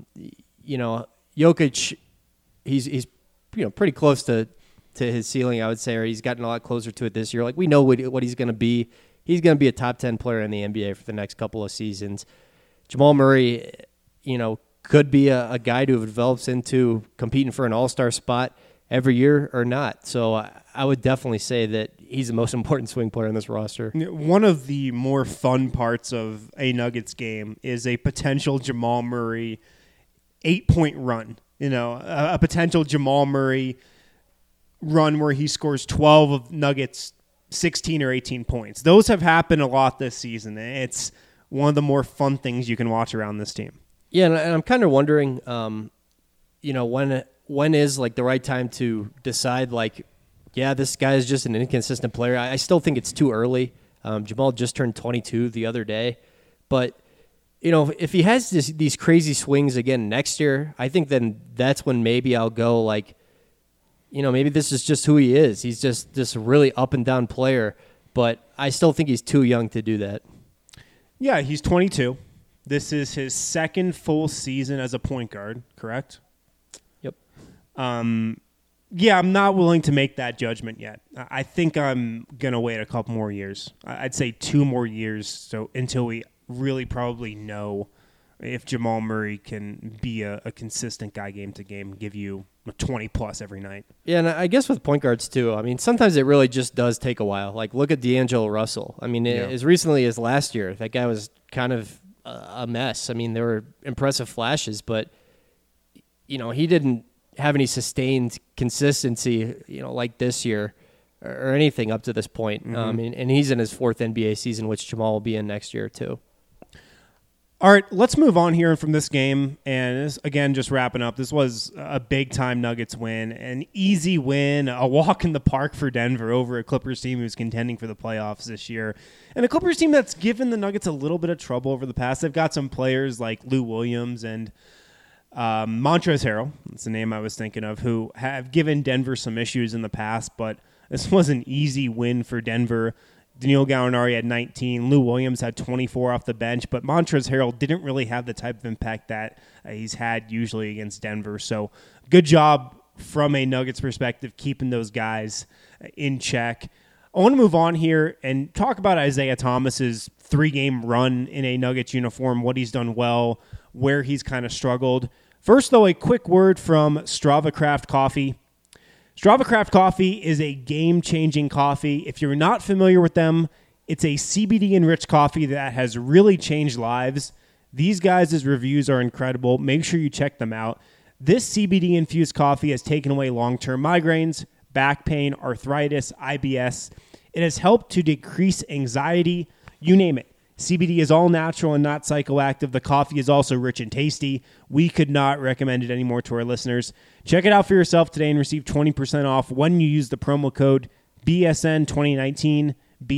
Jokic, he's pretty close to his ceiling, I would say, or he's gotten a lot closer to it this year. Like, we know what he's going to be. He's going to be a top 10 player in the NBA for the next couple of seasons. Jamal Murray, could be a guy who develops into competing for an all-star spot every year or not. So I would definitely say that he's the most important swing player in this roster. One of the more fun parts of a Nuggets game is a potential Jamal Murray 8-point run. A potential Jamal Murray run where he scores 12 of Nuggets 16 or 18 points. Those have happened a lot this season. It's one of the more fun things you can watch around this team. Yeah, and I'm kind of wondering, when is like the right time to decide, like, yeah, this guy is just an inconsistent player. I still think it's too early. Jamal just turned 22 the other day, but if he has these crazy swings again next year, I think then that's when maybe I'll go like, maybe this is just who he is. He's just this really up and down player, but I still think he's too young to do that. Yeah, he's 22. This is his second full season as a point guard, correct? Yep. Yeah, I'm not willing to make that judgment yet. I think I'm going to wait a couple more years. I'd say 2 more years until we really probably know if Jamal Murray can be a consistent guy game to game, give you 20-plus every night. Yeah, and I guess with point guards too, I mean, sometimes it really just does take a while. Like, look at D'Angelo Russell. I mean, as recently as last year, that guy was kind of a mess. I mean, there were impressive flashes, but, he didn't have any sustained consistency, like this year or anything up to this point. Mm-hmm. And he's in his 4th NBA season, which Jamal will be in next year too. All right, let's move on here from this game. And this, again, just wrapping up, this was a big-time Nuggets win, an easy win, a walk in the park for Denver over a Clippers team who's contending for the playoffs this year. And a Clippers team that's given the Nuggets a little bit of trouble over the past. They've got some players like Lou Williams and Montrezl Harrell, that's the name I was thinking of, who have given Denver some issues in the past, but this was an easy win for Denver. Danilo Gallinari had 19. Lou Williams had 24 off the bench, but Montrezl Harrell didn't really have the type of impact that he's had usually against Denver. So good job from a Nuggets perspective keeping those guys in check. I want to move on here and talk about Isaiah Thomas's 3-game run in a Nuggets uniform, what he's done well, where he's kind of struggled. First, though, a quick word from Strava Craft Coffee. Strava Craft Coffee is a game-changing coffee. If you're not familiar with them, it's a CBD-enriched coffee that has really changed lives. These guys' reviews are incredible. Make sure you check them out. This CBD-infused coffee has taken away long-term migraines, back pain, arthritis, IBS. It has helped to decrease anxiety, you name it. CBD is all natural and not psychoactive. The coffee is also rich and tasty. We could not recommend it anymore to our listeners. Check it out for yourself today and receive 20% off when you use the promo code BSN2019,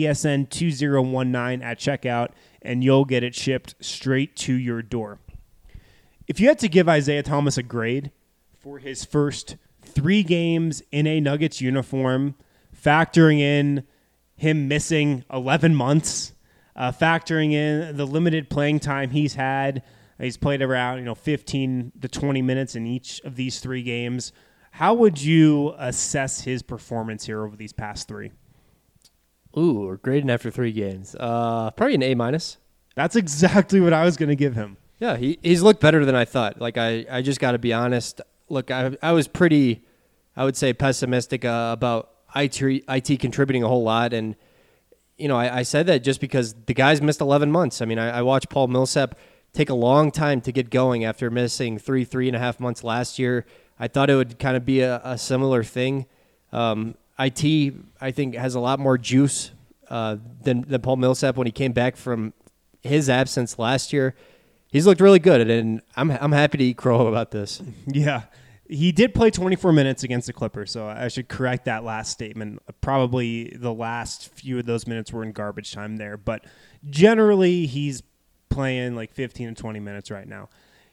BSN2019 at checkout, and you'll get it shipped straight to your door. If you had to give Isaiah Thomas a grade for his first 3 games in a Nuggets uniform, factoring in him missing 11 months, factoring in the limited playing time he's had, he's played around 15 to 20 minutes in each of these 3 games. How would you assess his performance here over these past 3? Ooh, we're grading after 3 games. Probably an A-. That's exactly what I was going to give him. Yeah, he's looked better than I thought. Like, I just got to be honest. Look, I was pretty, I would say, pessimistic about IT contributing a whole lot, and I said that just because the guy's missed 11 months. I mean, I watched Paul Millsap take a long time to get going after missing 3.5 months last year. I thought it would kind of be a similar thing. IT, I think, has a lot more juice than Paul Millsap when he came back from his absence last year. He's looked really good, and I'm happy to eat crow about this. Yeah. He did play 24 minutes against the Clippers, so I should correct that last statement. Probably the last few of those minutes were in garbage time there, but generally he's playing like 15 to 20 minutes right now.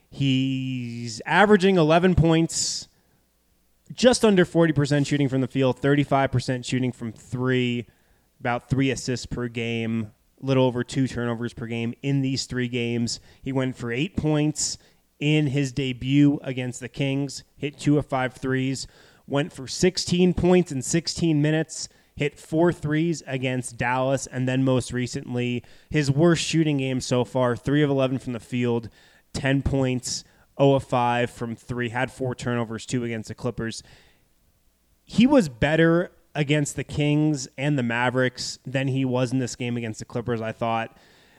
He's averaging 11 points, just under 40% shooting from the field, 35% shooting from 3, about 3 assists per game, a little over 2 turnovers per game in these 3 games. He went for 8 points in his debut against the Kings, hit 2 of 5 threes, went for 16 points in 16 minutes, hit 4 threes against Dallas, and then most recently, his worst shooting game so far, 3 of 11 from the field, 10 points, 0 of 5 from 3, had 4 turnovers, 2 against the Clippers. He was better against the Kings and the Mavericks than he was in this game against the Clippers, I thought.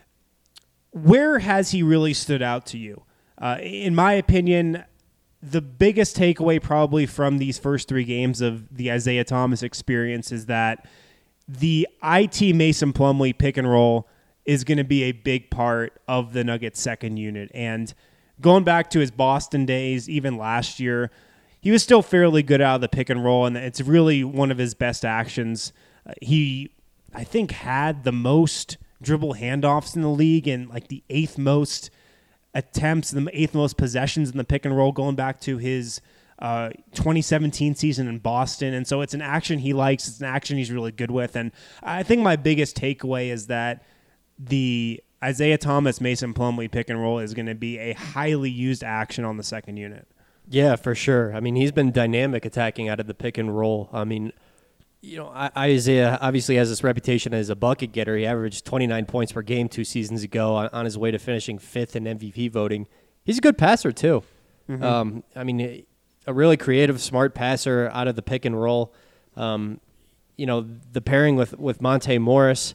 Where has he really stood out to you? In my opinion, the biggest takeaway probably from these first 3 games of the Isaiah Thomas experience is that the IT Mason Plumlee pick and roll is going to be a big part of the Nuggets second unit. And going back to his Boston days, even last year, he was still fairly good out of the pick and roll, and it's really one of his best actions. He, I think, had the most dribble handoffs in the league and like the 8th most attempts, the 8th most possessions in the pick and roll going back to his 2017 season in Boston. And so it's an action he likes. It's an action he's really good with. And I think my biggest takeaway is that the Isaiah Thomas, Mason Plumlee pick and roll is going to be a highly used action on the second unit. Yeah, for sure. I mean, he's been dynamic attacking out of the pick and roll. I mean, Isaiah obviously has this reputation as a bucket getter. He averaged 29 points per game 2 seasons ago on his way to finishing 5th in MVP voting. He's a good passer, too. Mm-hmm. I mean, a really creative, smart passer out of the pick and roll. The pairing with Monte Morris,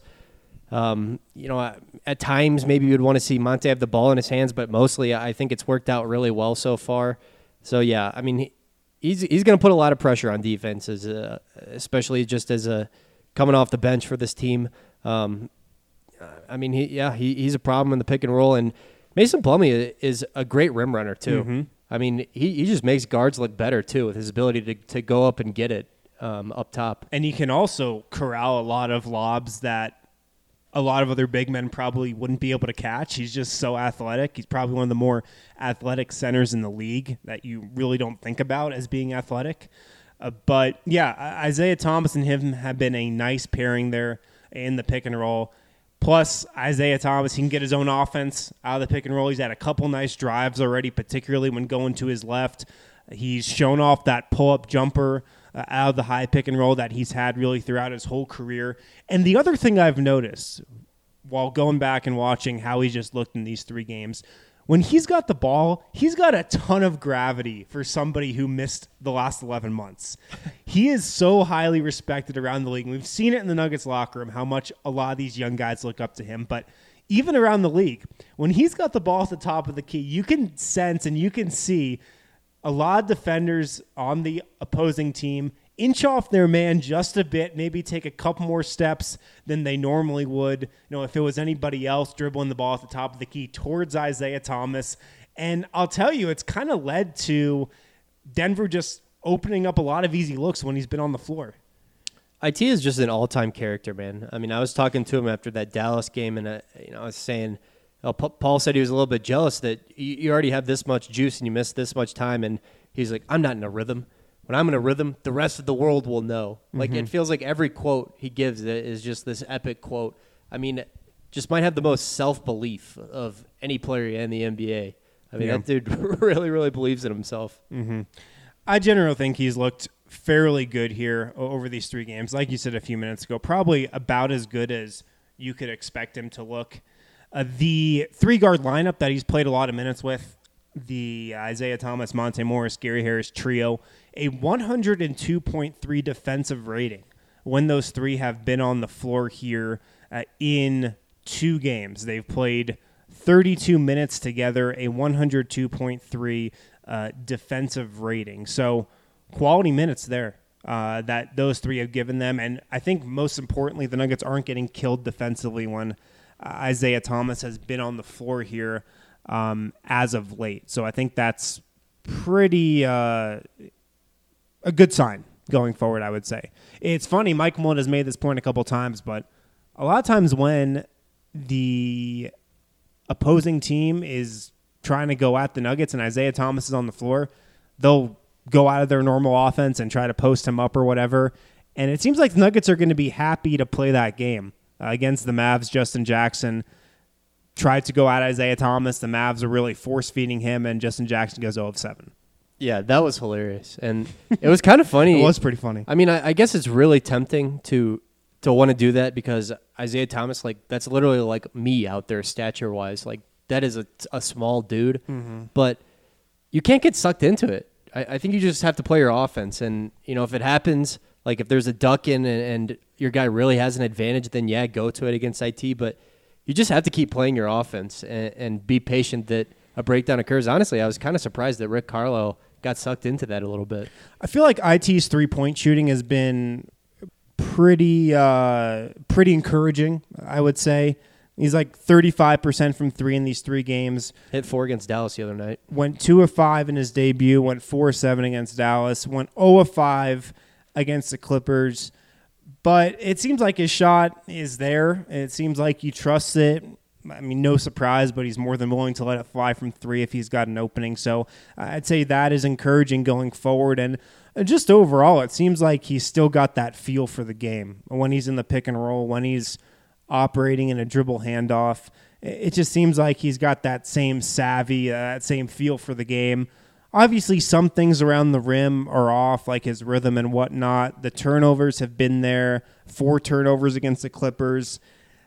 at times maybe you'd want to see Monte have the ball in his hands, but mostly I think it's worked out really well so far. So, yeah, I mean, he's going to put a lot of pressure on defenses, especially just as coming off the bench for this team. I mean, he's a problem in the pick and roll, and Mason Plumlee is a great rim runner too. Mm-hmm. I mean, he just makes guards look better too with his ability to go up and get it up top. And he can also corral a lot of lobs that a lot of other big men probably wouldn't be able to catch. He's just so athletic. He's probably one of the more athletic centers in the league that you really don't think about as being athletic. But, yeah, Isaiah Thomas and him have been a nice pairing there in the pick and roll. Plus, Isaiah Thomas, he can get his own offense out of the pick and roll. He's had a couple nice drives already, particularly when going to his left. He's shown off that pull-up jumper out of the high pick and roll that he's had really throughout his whole career. And the other thing I've noticed while going back and watching how he just looked in these 3 games, when he's got the ball, he's got a ton of gravity for somebody who missed the last 11 months. He is so highly respected around the league. We've seen it in the Nuggets locker room, how much a lot of these young guys look up to him. But even around the league, when he's got the ball at the top of the key, you can sense and you can see a lot of defenders on the opposing team inch off their man just a bit, maybe take a couple more steps than they normally would. You know, if it was anybody else dribbling the ball at the top of the key towards Isaiah Thomas. And I'll tell you, it's kind of led to Denver just opening up a lot of easy looks when he's been on the floor. IT is just an all-time character, man. I mean, I was talking to him after that Dallas game, and I was saying, Paul said he was a little bit jealous that you already have this much juice and you missed this much time, and he's like, I'm not in a rhythm. When I'm in a rhythm, the rest of the world will know. Like, it feels like every quote he gives is just this epic quote. I mean, just might have the most self-belief of any player in the NBA. I mean, that dude really, really believes in himself. Mm-hmm. I generally think he's looked fairly good here over these 3 games. Like you said a few minutes ago, probably about as good as you could expect him to look. The 3-guard lineup that he's played a lot of minutes with, the Isaiah Thomas, Monte Morris, Gary Harris trio, a 102.3 defensive rating when those 3 have been on the floor here in 2 games. They've played 32 minutes together, a 102.3 defensive rating. So quality minutes there that those 3 have given them. And I think most importantly, the Nuggets aren't getting killed defensively when Isaiah Thomas has been on the floor here as of late. So I think that's pretty a good sign going forward, I would say. It's funny, Mike Malone has made this point a couple times, but a lot of times when the opposing team is trying to go at the Nuggets and Isaiah Thomas is on the floor, they'll go out of their normal offense and try to post him up or whatever. And it seems like the Nuggets are going to be happy to play that game. Against the Mavs, Justin Jackson tried to go at Isaiah Thomas. The Mavs are really force-feeding him, and Justin Jackson goes 0 of 7. Yeah, that was hilarious. And it was kind of funny. It was pretty funny. I mean, I guess it's really tempting to want to do that because Isaiah Thomas, like, that's literally like me out there stature-wise. Like, that is a small dude. Mm-hmm. But you can't get sucked into it. I think you just have to play your offense. And, you know, if it happens, like if there's a duck in and your guy really has an advantage, then yeah, go to it against IT. But you just have to keep playing your offense and be patient that a breakdown occurs. Honestly, I was kind of surprised that Rick Carlisle got sucked into that a little bit. I feel like IT's three-point shooting has been pretty encouraging, I would say. He's like 35% from 3 in these 3 games. Hit 4 against Dallas the other night. Went 2 of 5 in his debut. Went 4 of 7 against Dallas. Went 0 of 5 against the Clippers. But it seems like his shot is there. It seems like he trusts it. I mean, no surprise, but he's more than willing to let it fly from 3 if he's got an opening. So I'd say that is encouraging going forward. And just overall, it seems like he's still got that feel for the game. When he's in the pick and roll, when he's operating in a dribble handoff, it just seems like he's got that same savvy, that same feel for the game. Obviously, some things around the rim are off, like his rhythm and whatnot. The turnovers have been there, 4 turnovers against the Clippers.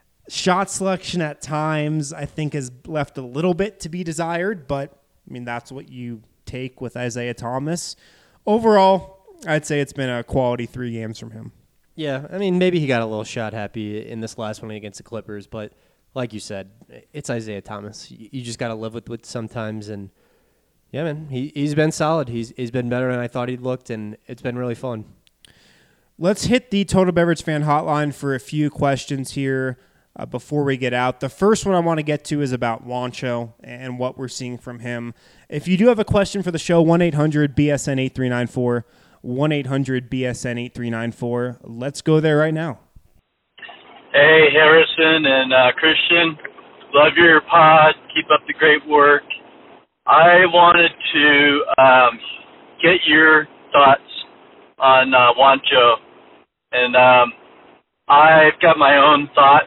Shot selection at times, I think, has left a little bit to be desired, but, I mean, that's what you take with Isaiah Thomas. Overall, I'd say it's been a quality 3 games from him. Yeah, I mean, maybe he got a little shot happy in this last one against the Clippers, but like you said, it's Isaiah Thomas. You just got to live with it sometimes, and yeah, man, he's been solid. He's been better than I thought he'd looked, and it's been really fun. Let's hit the Total Beverage Fan Hotline for a few questions here before we get out. The first one I want to get to is about Juancho and what we're seeing from him. If you do have a question for the show, 1-800-BSN-8394, 1-800-BSN-8394. Let's go there right now. Hey, Harrison and Christian. Love your pod. Keep up the great work. I wanted to get your thoughts on Juancho. And I've got my own thoughts.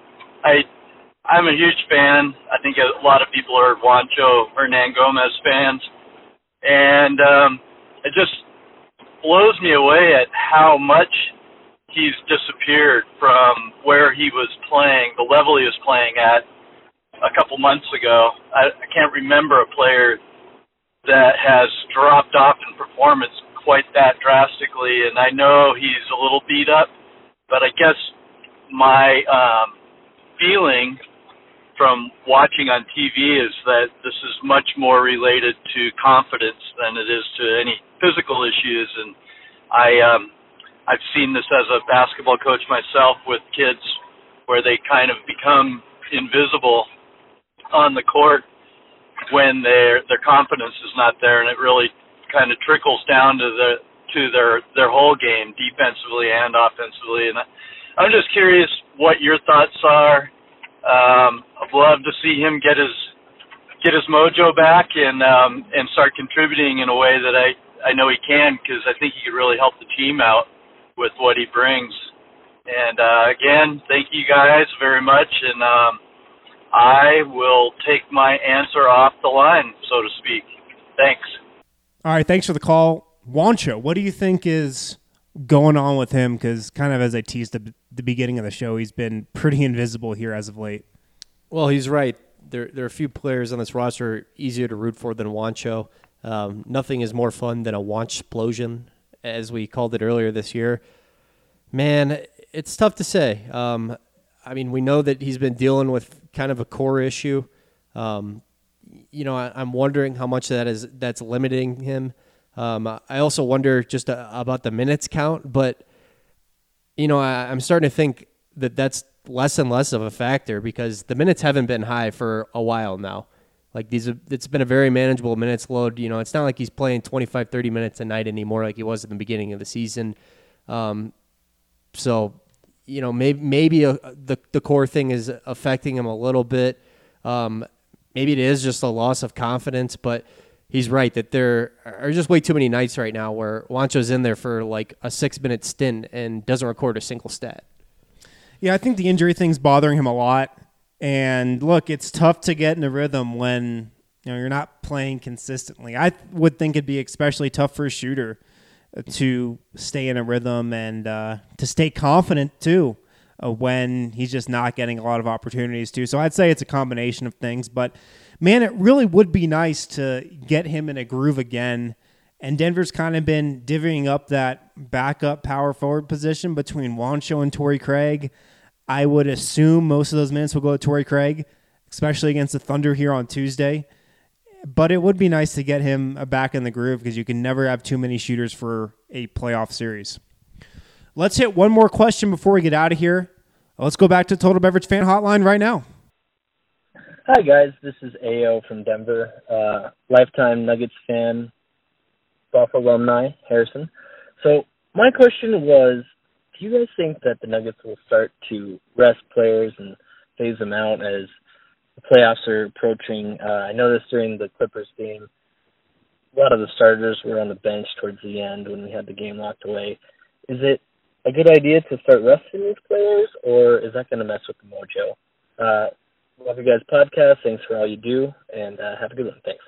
I'm a huge fan. I think a lot of people are Juancho Hernangomez fans. And it just blows me away at how much he's disappeared from where he was playing, the level he was playing at a couple months ago. I can't remember a player that has dropped off in performance quite that drastically, and I know he's a little beat up, but I guess my feeling from watching on TV is that this is much more related to confidence than it is to any physical issues, and I've seen this as a basketball coach myself with kids where they kind of become invisible on the court when their confidence is not there, and it really kind of trickles down to their whole game, defensively and offensively. And I'm just curious what your thoughts are. I'd love to see him get his mojo back and start contributing in a way that I know he can, because I think he could really help the team out with what he brings. And again, thank you guys very much, and I will take my answer off the line, so to speak. Thanks. All right, thanks for the call. Juancho, what do you think is going on with him? Because kind of as I teased at the beginning of the show, he's been pretty invisible here as of late. Well, he's right. There are a few players on this roster easier to root for than Juancho. Nothing is more fun than a Wanchplosion, as we called it earlier this year. Man, it's tough to say. I mean, we know that he's been dealing with kind of a core issue. I'm wondering how much that's limiting him. I also wonder just about the minutes count, but I'm starting to think that that's less and less of a factor because the minutes haven't been high for a while now. Like it's been a very manageable minutes load. It's not like he's playing 25, 30 minutes a night anymore like he was at the beginning of the season. So maybe the core thing is affecting him a little bit. Maybe it is just a loss of confidence, but he's right that there are just way too many nights right now where Juancho's in there for like a 6-minute stint and doesn't record a single stat. Yeah, I think the injury thing's bothering him a lot. And look, it's tough to get in a rhythm when you're not playing consistently. I would think it'd be especially tough for a shooter to stay in a rhythm and to stay confident too when he's just not getting a lot of opportunities too. So I'd say it's a combination of things. But man, it really would be nice to get him in a groove again. And Denver's kind of been divvying up that backup power forward position between Juancho and Torrey Craig. I would assume most of those minutes will go to Torrey Craig, especially against the Thunder here on Tuesday. But it would be nice to get him back in the groove because you can never have too many shooters for a playoff series. Let's hit one more question before we get out of here. Let's go back to Total Beverage Fan Hotline right now. Hi, guys. This is AO from Denver, lifetime Nuggets fan, Buffalo alumni, Harrison. So my question was, do you guys think that the Nuggets will start to rest players and phase them out as the playoffs are approaching? I noticed during the Clippers game, a lot of the starters were on the bench towards the end when we had the game locked away. Is it a good idea to start resting these players, or is that going to mess with the mojo? Love you guys' podcast. Thanks for all you do, and have a good one. Thanks.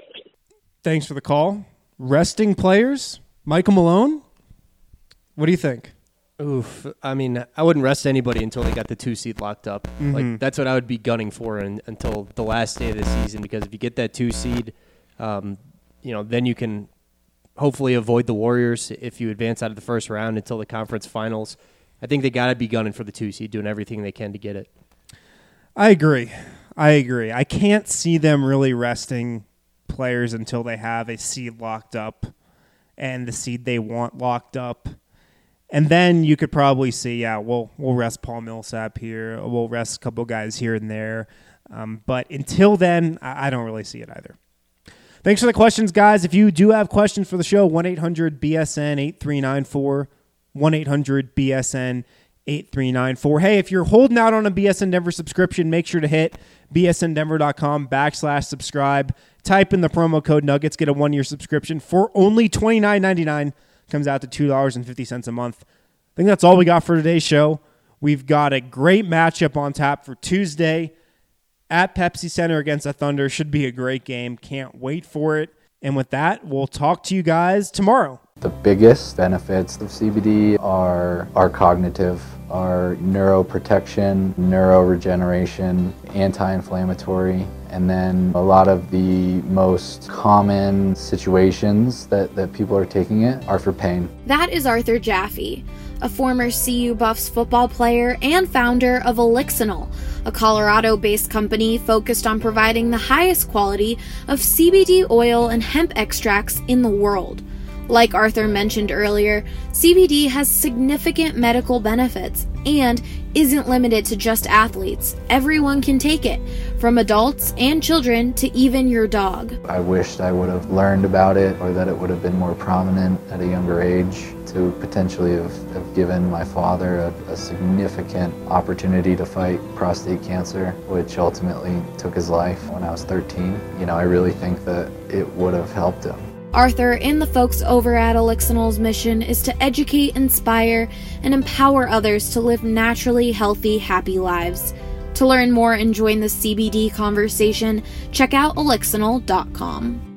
Thanks for the call. Resting players? Michael Malone? What do you think? Oof. I mean, I wouldn't rest anybody until they got the 2 seed locked up. Mm-hmm. Like that's what I would be gunning for until the last day of the season, because if you get that 2 seed, then you can hopefully avoid the Warriors if you advance out of the first round until the conference finals. I think they got to be gunning for the 2 seed, doing everything they can to get it. I agree. I can't see them really resting players until they have a seed locked up and the seed they want locked up. And then you could probably see, we'll rest Paul Millsap here. We'll rest a couple guys here and there. But until then, I don't really see it either. Thanks for the questions, guys. If you do have questions for the show, 1-800-BSN-8394, 1-800-BSN-8394. Hey, if you're holding out on a BSN Denver subscription, make sure to hit bsndenver.com/subscribe. Type in the promo code Nuggets, get a 1-year subscription for only $29.99. Comes out to $2.50 a month. I think that's all we got for today's show. We've got a great matchup on tap for Tuesday at Pepsi Center against the Thunder. Should be a great game. Can't wait for it. And with that, we'll talk to you guys tomorrow. The biggest benefits of CBD are cognitive, are neuroprotection, neuroregeneration, anti-inflammatory, and then a lot of the most common situations that people are taking it are for pain. That is Arthur Jaffe, a former CU Buffs football player and founder of Elixinol, a Colorado-based company focused on providing the highest quality of CBD oil and hemp extracts in the world. Like Arthur mentioned earlier, CBD has significant medical benefits and isn't limited to just athletes. Everyone can take it, from adults and children to even your dog. I wished I would have learned about it, or that it would have been more prominent at a younger age to potentially have given my father a significant opportunity to fight prostate cancer, which ultimately took his life when I was 13. I really think that it would have helped him. Arthur and the folks over at Elixinol's mission is to educate, inspire, and empower others to live naturally healthy, happy lives. To learn more and join the CBD conversation, check out elixinol.com.